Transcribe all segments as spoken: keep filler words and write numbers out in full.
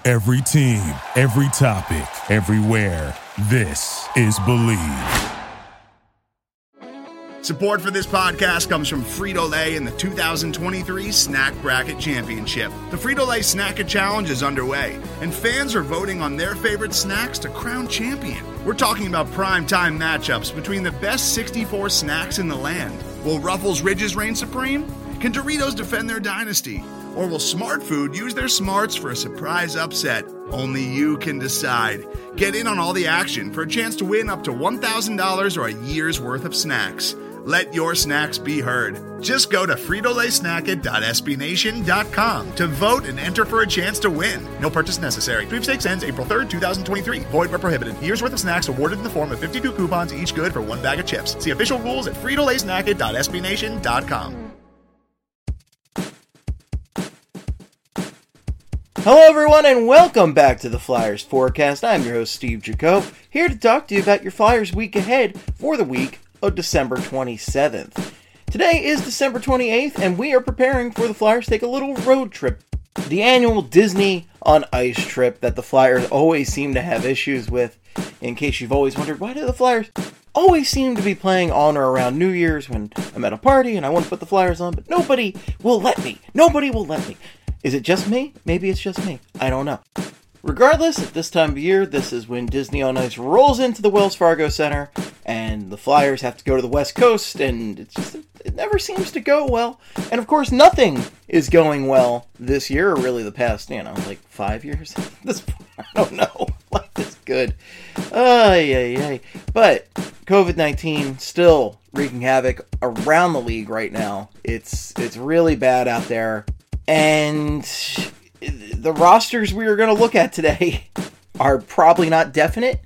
Every team, every topic, everywhere. This is Believe. Support for this podcast comes from Frito-Lay and the two thousand twenty-three Snack Bracket Championship. The Frito-Lay Snack-A Challenge is underway, and fans are voting on their favorite snacks to crown champion. We're talking about prime-time matchups between the best sixty-four snacks in the land. Will Ruffles Ridges reign supreme? Can Doritos defend their dynasty? Or will Smart Food use their smarts for a surprise upset? Only you can decide. Get in on all the action for a chance to win up to one thousand dollars or a year's worth of snacks. Let your snacks be heard. Just go to Frito Lay Snack It dot S B Nation dot com to vote and enter for a chance to win. No purchase necessary. Sweepstakes ends April third, twenty twenty-three. Void where prohibited. Year's worth of snacks awarded in the form of fifty-two coupons, each good for one bag of chips. See official rules at Frito Lay Snack It dot S B Nation dot com. Hello everyone and welcome back to the Flyers Forecast. I'm your host Steve Jacob, here to talk to you about your Flyers week ahead for the week of December twenty-seventh. Today is December twenty-eighth and we are preparing for the Flyers to take a little road trip. The annual Disney on Ice trip that the Flyers always seem to have issues with. In case you've always wondered, why do the Flyers always seem to be playing on or around New Year's when I'm at a party and I want to put the Flyers on, but nobody will let me. Nobody will let me. Is it just me? Maybe it's just me. I don't know. Regardless, at this time of year, this is when Disney on Ice rolls into the Wells Fargo Center, and the Flyers have to go to the West Coast, and it's just, it never seems to go well. And of course, nothing is going well this year, or really the past, you know, like five years. This, I don't know. Life is good. Ay, ay, ay. But covid nineteen still wreaking havoc around the league right now. It's it's really bad out there. And the rosters we are going to look at today are probably not definite,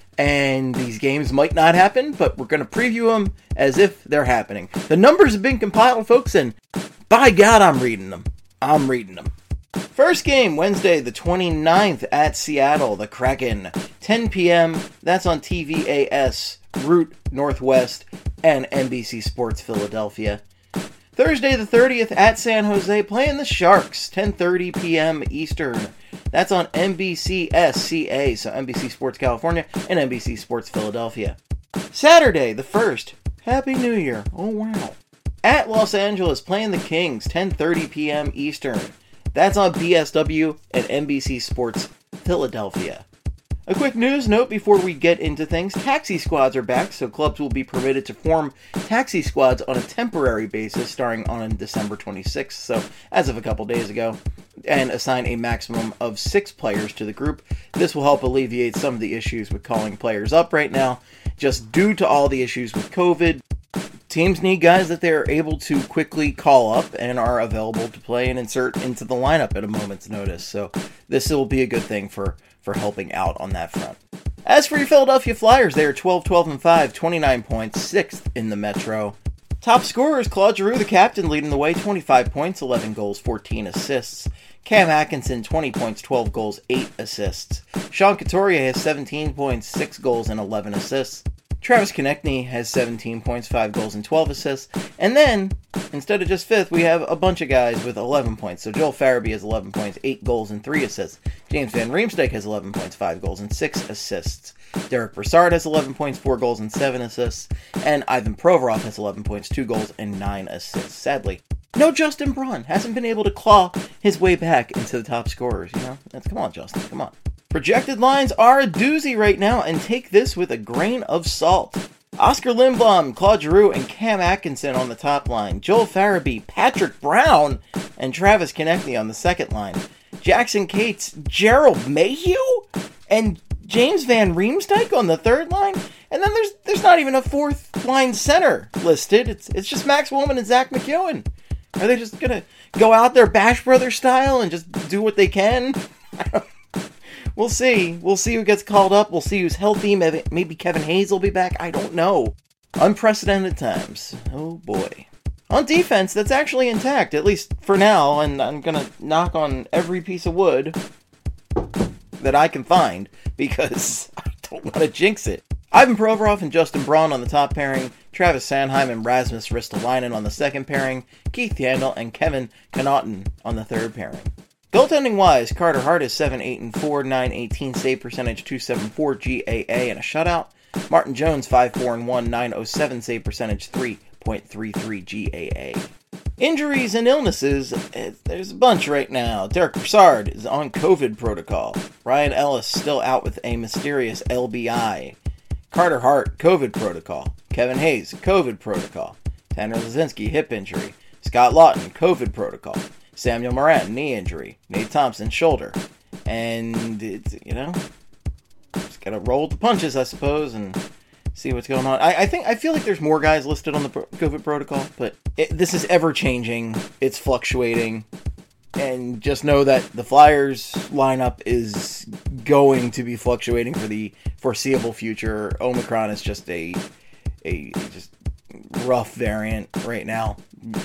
and these games might not happen, but we're going to preview them as if they're happening. The numbers have been compiled, folks, and by God, I'm reading them. I'm reading them. First game, Wednesday the twenty-ninth at Seattle, the Kraken, ten p.m. That's on T V A S, Root Northwest, and N B C Sports Philadelphia. Thursday the thirtieth at San Jose, playing the Sharks, ten thirty p.m. Eastern. That's on N B C S C A, so N B C Sports California and N B C Sports Philadelphia. Saturday the first, Happy New Year, oh wow. At Los Angeles, playing the Kings, ten thirty p.m. Eastern. That's on B S W and N B C Sports Philadelphia. A quick news note before we get into things. Taxi squads are back, so clubs will be permitted to form taxi squads on a temporary basis starting on December twenty-sixth, so as of a couple days ago, and assign a maximum of six players to the group. This will help alleviate some of the issues with calling players up right now, just due to all the issues with COVID. Teams need guys that they're able to quickly call up and are available to play and insert into the lineup at a moment's notice, so this will be a good thing for for helping out on that front. As for your Philadelphia Flyers, they are twelve, twelve, and five, twenty-nine points, sixth in the Metro. Top scorers, Claude Giroux, the captain, leading the way, twenty-five points, eleven goals, fourteen assists. Cam Atkinson, twenty points, twelve goals, eight assists. Sean Couturier has seventeen points, six goals, and eleven assists. Travis Konechny has seventeen points, five goals, and twelve assists. And then, instead of just fifth, we have a bunch of guys with eleven points. So Joel Farabee has eleven points, eight goals, and three assists. James Van Riemsdyk has eleven points, five goals, and six assists. Derek Brassard has eleven points, four goals, and seven assists. And Ivan Provorov has eleven points, two goals, and nine assists. Sadly, no Justin Braun. Hasn't been able to claw his way back into the top scorers, you know? That's, come on, Justin, come on. Projected lines are a doozy right now, and take this with a grain of salt. Oscar Lindblom, Claude Giroux, and Cam Atkinson on the top line. Joel Farabee, Patrick Brown, and Travis Konechny on the second line. Jackson Cates, Gerald Mayhew, and James Van Riemsdyk on the third line. And then there's there's not even a fourth line center listed. It's it's just Max Woolman and Zach McEwen. Are they just gonna go out there Bash Brothers style and just do what they can? I don't We'll see. We'll see who gets called up. We'll see who's healthy. Maybe, maybe Kevin Hayes will be back. I don't know. Unprecedented times. Oh, boy. On defense, that's actually intact, at least for now, and I'm going to knock on every piece of wood that I can find, because I don't want to jinx it. Ivan Provorov and Justin Braun on the top pairing, Travis Sanheim and Rasmus Ristolainen on the second pairing, Keith Yandel and Kevin Connaughton on the third pairing. Goaltending-wise, Carter Hart is seven eight and four, nine eighteen save percentage, two seventy-four G A A, and a shutout. Martin Jones, five four and one, nine oh seven save percentage, three point three three G A A. Injuries and illnesses, there's a bunch right now. Derek Brassard is on COVID protocol. Ryan Ellis still out with a mysterious L B I. Carter Hart, COVID protocol. Kevin Hayes, COVID protocol. Tanner Lazinski, hip injury. Scott Lawton, COVID protocol. Samuel Morin, knee injury. Nate Thompson, shoulder. And, it's, you know, just gotta roll with the punches, I suppose, and see what's going on. I, I think I feel like there's more guys listed on the pro- COVID protocol, but it, this is ever changing. It's fluctuating, and just know that the Flyers lineup is going to be fluctuating for the foreseeable future. Omicron is just a a just rough variant right now,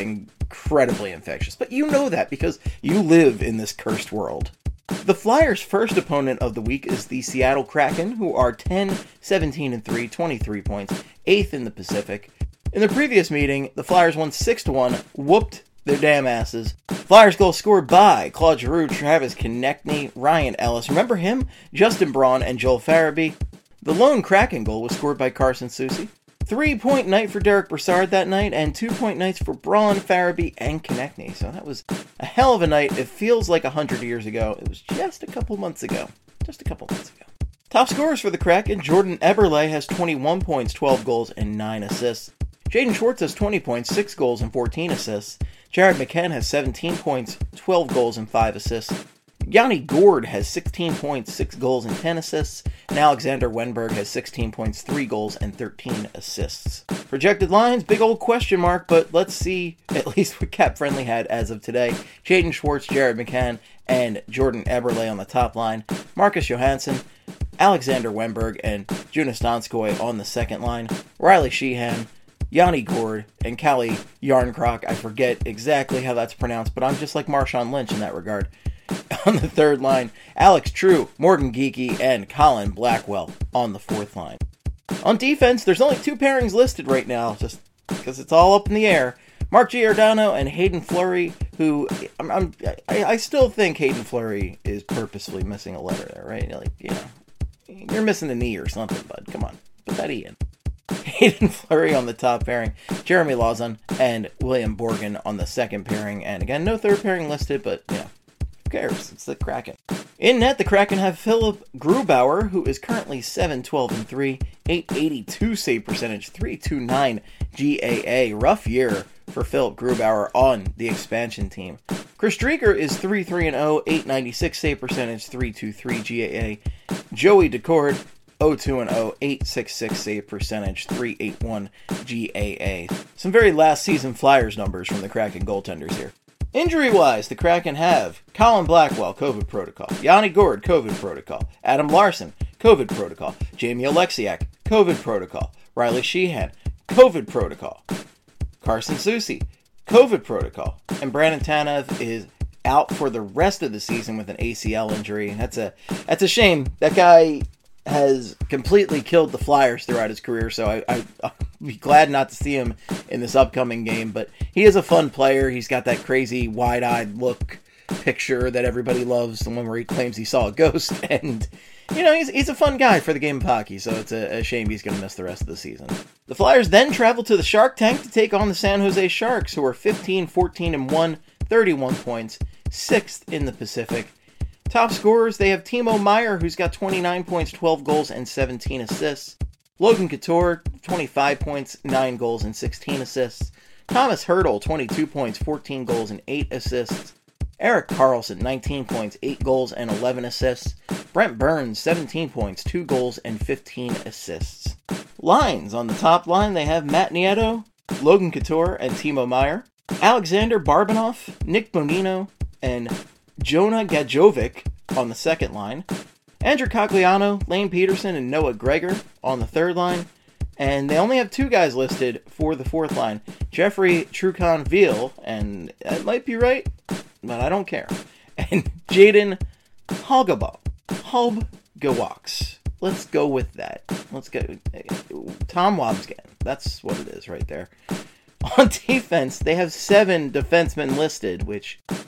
incredibly infectious. But you know that because you live in this cursed world. The Flyers' first opponent of the week is the Seattle Kraken, who are ten, seventeen and three, twenty-three points, eighth in the Pacific. In the previous meeting, the Flyers won six to one, whooped their damn asses. Flyers goal scored by Claude Giroux, Travis Konecny, Ryan Ellis, remember him? Justin Braun, and Joel Farabee. The lone Kraken goal was scored by Carson Soucy. Three-point night for Derek Brassard that night, and two-point nights for Braun, Farabee, and Konecny. So that was a hell of a night. It feels like a hundred years ago. It was just a couple months ago. Just a couple months ago. Top scorers for the Kraken, Jordan Eberle has twenty-one points, twelve goals, and nine assists. Jaden Schwartz has twenty points, six goals, and fourteen assists. Jared McCann has seventeen points, twelve goals, and five assists. Yanni Gourde has sixteen points, six goals, and ten assists, and Alexander Wenberg has sixteen points, three goals, and thirteen assists. Projected lines, big old question mark, but let's see at least what Cap Friendly had as of today. Jaden Schwartz, Jared McCann, and Jordan Eberle on the top line. Marcus Johansson, Alexander Wenberg, and Jonas Donskoy on the second line. Riley Sheehan, Yanni Gourde, and Kalle Järnkrok. I forget exactly how that's pronounced, but I'm just like Marshawn Lynch in that regard. On the third line, Alex True, Morgan Geekie, and Colin Blackwell on the fourth line. On defense, there's only two pairings listed right now, just because it's all up in the air. Mark Giordano and Hayden Fleury, who I'm, I'm, I, I still think Hayden Fleury is purposefully missing a letter there, right? Like, you know, you're missing a knee or something, bud. Come on, put that E in. Hayden Fleury on the top pairing, Jeremy Lauzon and William Borgen on the second pairing, and again, no third pairing listed, but, you know, who cares? It's the Kraken. In net, the Kraken have Philip Grubauer, who is currently seven twelve and three, eight eighty-two save percentage, three twenty-nine G A A. Rough year for Philip Grubauer on the expansion team. Chris Drieger is three three and oh, eight ninety-six save percentage, three twenty-three G A A. Joey Decord, oh two and oh, eight sixty-six save percentage, three eighty-one G A A. Some very last season Flyers numbers from the Kraken goaltenders here. Injury-wise, the Kraken have Colin Blackwell, COVID protocol. Yanni Gourde, COVID protocol. Adam Larson, COVID protocol. Jamie Oleksiak, COVID protocol. Riley Sheehan, COVID protocol. Carson Soucy, COVID protocol. And Brandon Tanev is out for the rest of the season with an A C L injury. That's a that's a shame. That guy has completely killed the Flyers throughout his career, so I, I, I'll be glad not to see him in this upcoming game, but he is a fun player. He's got that crazy wide-eyed look picture that everybody loves, the one where he claims he saw a ghost, and, you know, he's, he's a fun guy for the game of hockey, so it's a, a shame he's going to miss the rest of the season. The Flyers then travel to the Shark Tank to take on the San Jose Sharks, who are fifteen, fourteen and one, thirty-one points, sixth in the Pacific. Top scorers, they have Timo Meier, who's got twenty-nine points, twelve goals, and seventeen assists. Logan Couture, twenty-five points, nine goals, and sixteen assists. Thomas Hertl, twenty-two points, fourteen goals, and eight assists. Erik Karlsson, nineteen points, eight goals, and eleven assists. Brent Burns, seventeen points, two goals, and fifteen assists. Lines, on the top line, they have Matt Nieto, Logan Couture, and Timo Meier. Alexander Barbanoff, Nick Bonino, and Jonah Gajovic on the second line. Andrew Cogliano, Lane Peterson, and Noah Gregor on the third line. And they only have two guys listed for the fourth line. Jeffrey Trucon-Veal, and that might be right, but I don't care. And Jaden Halgaba. Halbgawaks. Let's go with that. Let's go. Tom Wabsgan. That's what it is right there. On defense, they have seven defensemen listed, which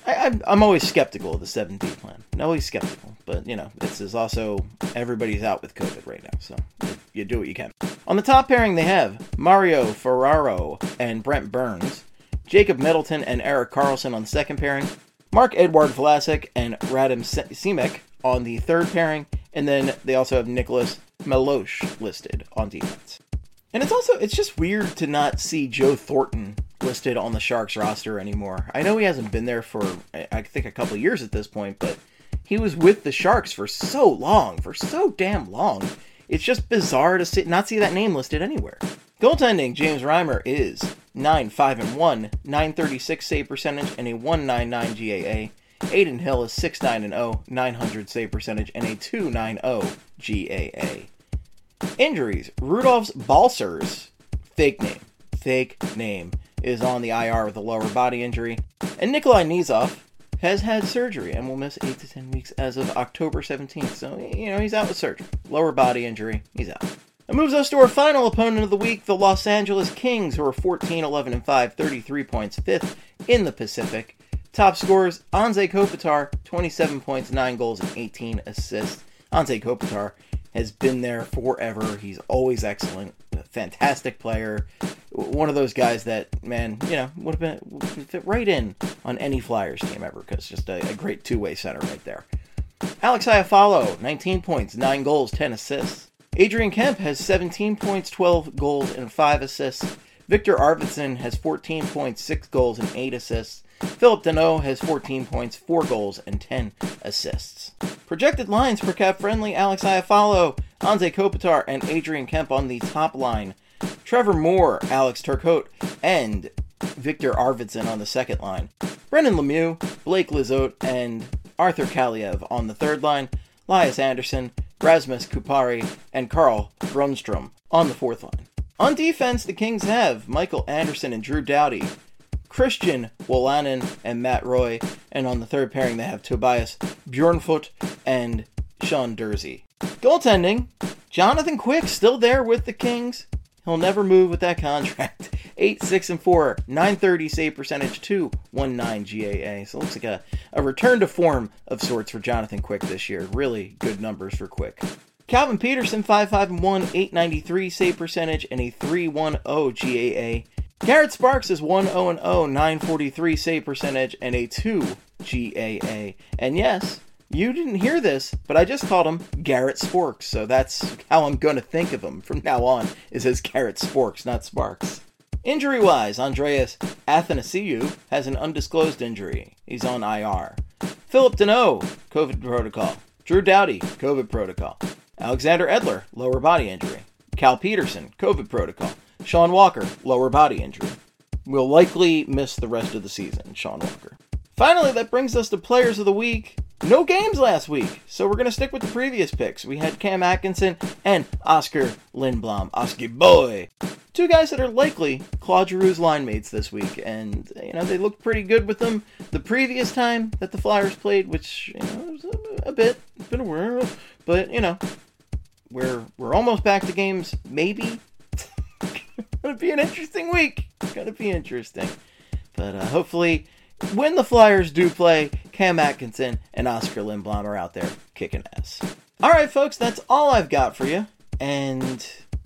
I, I'm, I'm always skeptical of the seven D plan. I'm always skeptical. But, you know, this is also, everybody's out with COVID right now, so you do what you can. On the top pairing, they have Mario Ferraro and Brent Burns, Jacob Middleton and Erik Karlsson on the second pairing, Marc-Edouard Vlasic and Radim Simek on the third pairing, and then they also have Nicholas Meloche listed on defense. And it's also, it's just weird to not see Joe Thornton listed on the Sharks roster anymore. I know he hasn't been there for, I think, a couple of years at this point, but he was with the Sharks for so long, for so damn long. It's just bizarre to see, not see that name listed anywhere. Goaltending, James Reimer is nine five and one, nine thirty-six save percentage, and a one ninety-nine G A A. Adin Hill is six nine and oh, nine hundred save percentage, and a two ninety G A A. Injuries, Rudolfs Balcers, fake name, fake name, is on the I R with a lower body injury. And Nikolai Nizov has had surgery and will miss eight to ten weeks as of October seventeenth. So, you know, he's out with surgery. Lower body injury, he's out. That moves us to our final opponent of the week, the Los Angeles Kings, who are fourteen eleven and five, thirty-three points, fifth in the Pacific. Top scorers, Anze Kopitar, twenty-seven points, nine goals, and eighteen assists. Anze Kopitar has been there forever. He's always excellent. A fantastic player. One of those guys that, man, you know, would have been would fit right in on any Flyers team ever, because just a, a great two-way center right there. Alex Iafallo, nineteen points, nine goals, ten assists. Adrian Kemp has seventeen points, twelve goals, and five assists. Victor Arvidsson has fourteen points, six goals, and eight assists. Philip Danault has fourteen points, four goals, and ten assists. Projected lines for cap-friendly, Alex Iafallo, Anze Kopitar, and Adrian Kemp on the top line. Trevor Moore, Alex Turcotte, and Victor Arvidsson on the second line. Brendan Lemieux, Blake Lizotte, and Arthur Kaliev on the third line. Elias Anderson, Rasmus Kupari, and Carl Brunstrom on the fourth line. On defense, the Kings have Michael Anderson and Drew Doughty, Christian Wolanin and Matt Roy, and on the third pairing they have Tobias Bjornfot and Sean Durzi. Goaltending, Jonathan Quick still there with the Kings. He'll never move with that contract. eight six and four, nine thirty save percentage, two nineteen G A A. So it looks like a, a return to form of sorts for Jonathan Quick this year. Really good numbers for Quick. Calvin Peterson, five five and one, eight ninety-three save percentage, and a three ten G A A. Garrett Sparks is one oh and oh, nine forty-three save percentage, and a two G A A. And yes, you didn't hear this, but I just called him Garrett Sporks, so that's how I'm going to think of him from now on, is as Garrett Sporks, not Sparks. Injury-wise, Andreas Athanasiou has an undisclosed injury. He's on I R. Philip Danault, COVID protocol. Drew Doughty, COVID protocol. Alexander Edler, lower body injury. Cal Peterson, COVID protocol. Sean Walker, lower body injury. Will likely miss the rest of the season, Sean Walker. Finally, that brings us to Players of the Week. No games last week, so we're going to stick with the previous picks. We had Cam Atkinson and Oscar Lindblom. Oski boy! Two guys that are likely Claude Giroux's line mates this week, and, you know, they looked pretty good with them the previous time that the Flyers played, which, you know, was a, a bit, it's been a while, but, you know, we're, we're almost back to games, maybe. It's going to be an interesting week. It's going to be interesting. But uh, hopefully, when the Flyers do play, Cam Atkinson and Oscar Lindblom are out there kicking ass. All right, folks, that's all I've got for you. And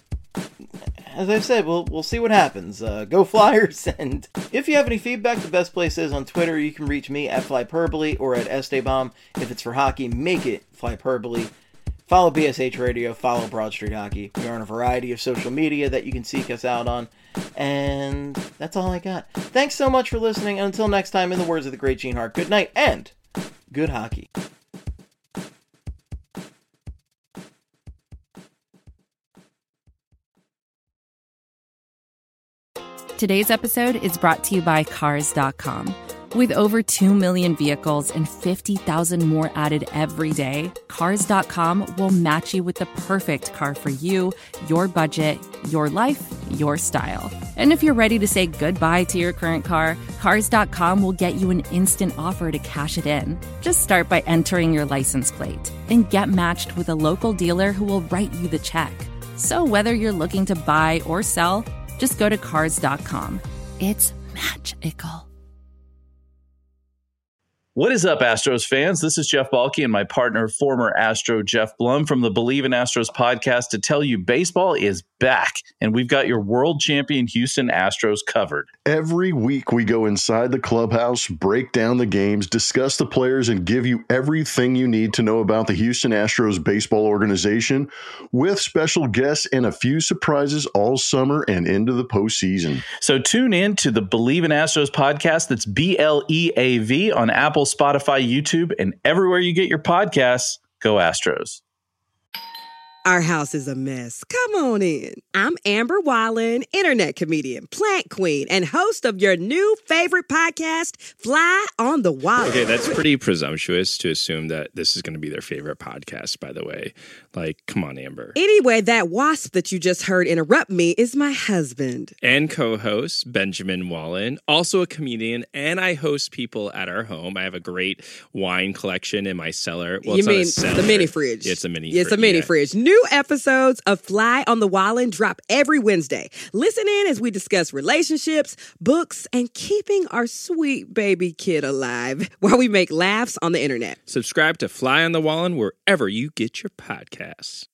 as I've said, we'll we'll see what happens. Uh, go Flyers! And if you have any feedback, the best place is on Twitter. You can reach me at Flyperbole or at Esteban. If it's for hockey, make it Flyperbole. Follow B S H Radio, follow Broad Street Hockey. We are on a variety of social media that you can seek us out on. And that's all I got. Thanks so much for listening. And until next time, in the words of the great Gene Hart, good night and good hockey. Today's episode is brought to you by Cars dot com. With over two million vehicles and fifty thousand more added every day, Cars dot com will match you with the perfect car for you, your budget, your life, your style. And if you're ready to say goodbye to your current car, Cars dot com will get you an instant offer to cash it in. Just start by entering your license plate and get matched with a local dealer who will write you the check. So whether you're looking to buy or sell, just go to Cars dot com. It's magical. What is up, Astros fans? This is Jeff Balke and my partner, former Astro Jeff Blum from the Believe in Astros podcast to tell you baseball is back, and we've got your world champion Houston Astros covered. Every week we go inside the clubhouse, break down the games, discuss the players, and give you everything you need to know about the Houston Astros baseball organization with special guests and a few surprises all summer and into the postseason. So tune in to the Believe in Astros podcast. That's B L E A V on Apple, Spotify, YouTube, and everywhere you get your podcasts. Go Astros. Our house is a mess. Come on in. I'm Amber Wallen, internet comedian, plant queen, and host of your new favorite podcast, Fly on the Wallen. Okay, that's pretty presumptuous to assume that this is going to be their favorite podcast, by the way. Like, come on, Amber. Anyway, that wasp that you just heard interrupt me is my husband. And co-host, Benjamin Wallen, also a comedian, and I host people at our home. I have a great wine collection in my cellar. Well, you it's mean not a cellar. the mini fridge? Yeah, it's a mini yeah, fridge. It's a mini yeah. fridge. New episodes of Fly on the Wallen drop every Wednesday. Listen in as we discuss relationships, books, and keeping our sweet baby kid alive while we make laughs on the internet. Subscribe to Fly on the Wallen wherever you get your podcasts.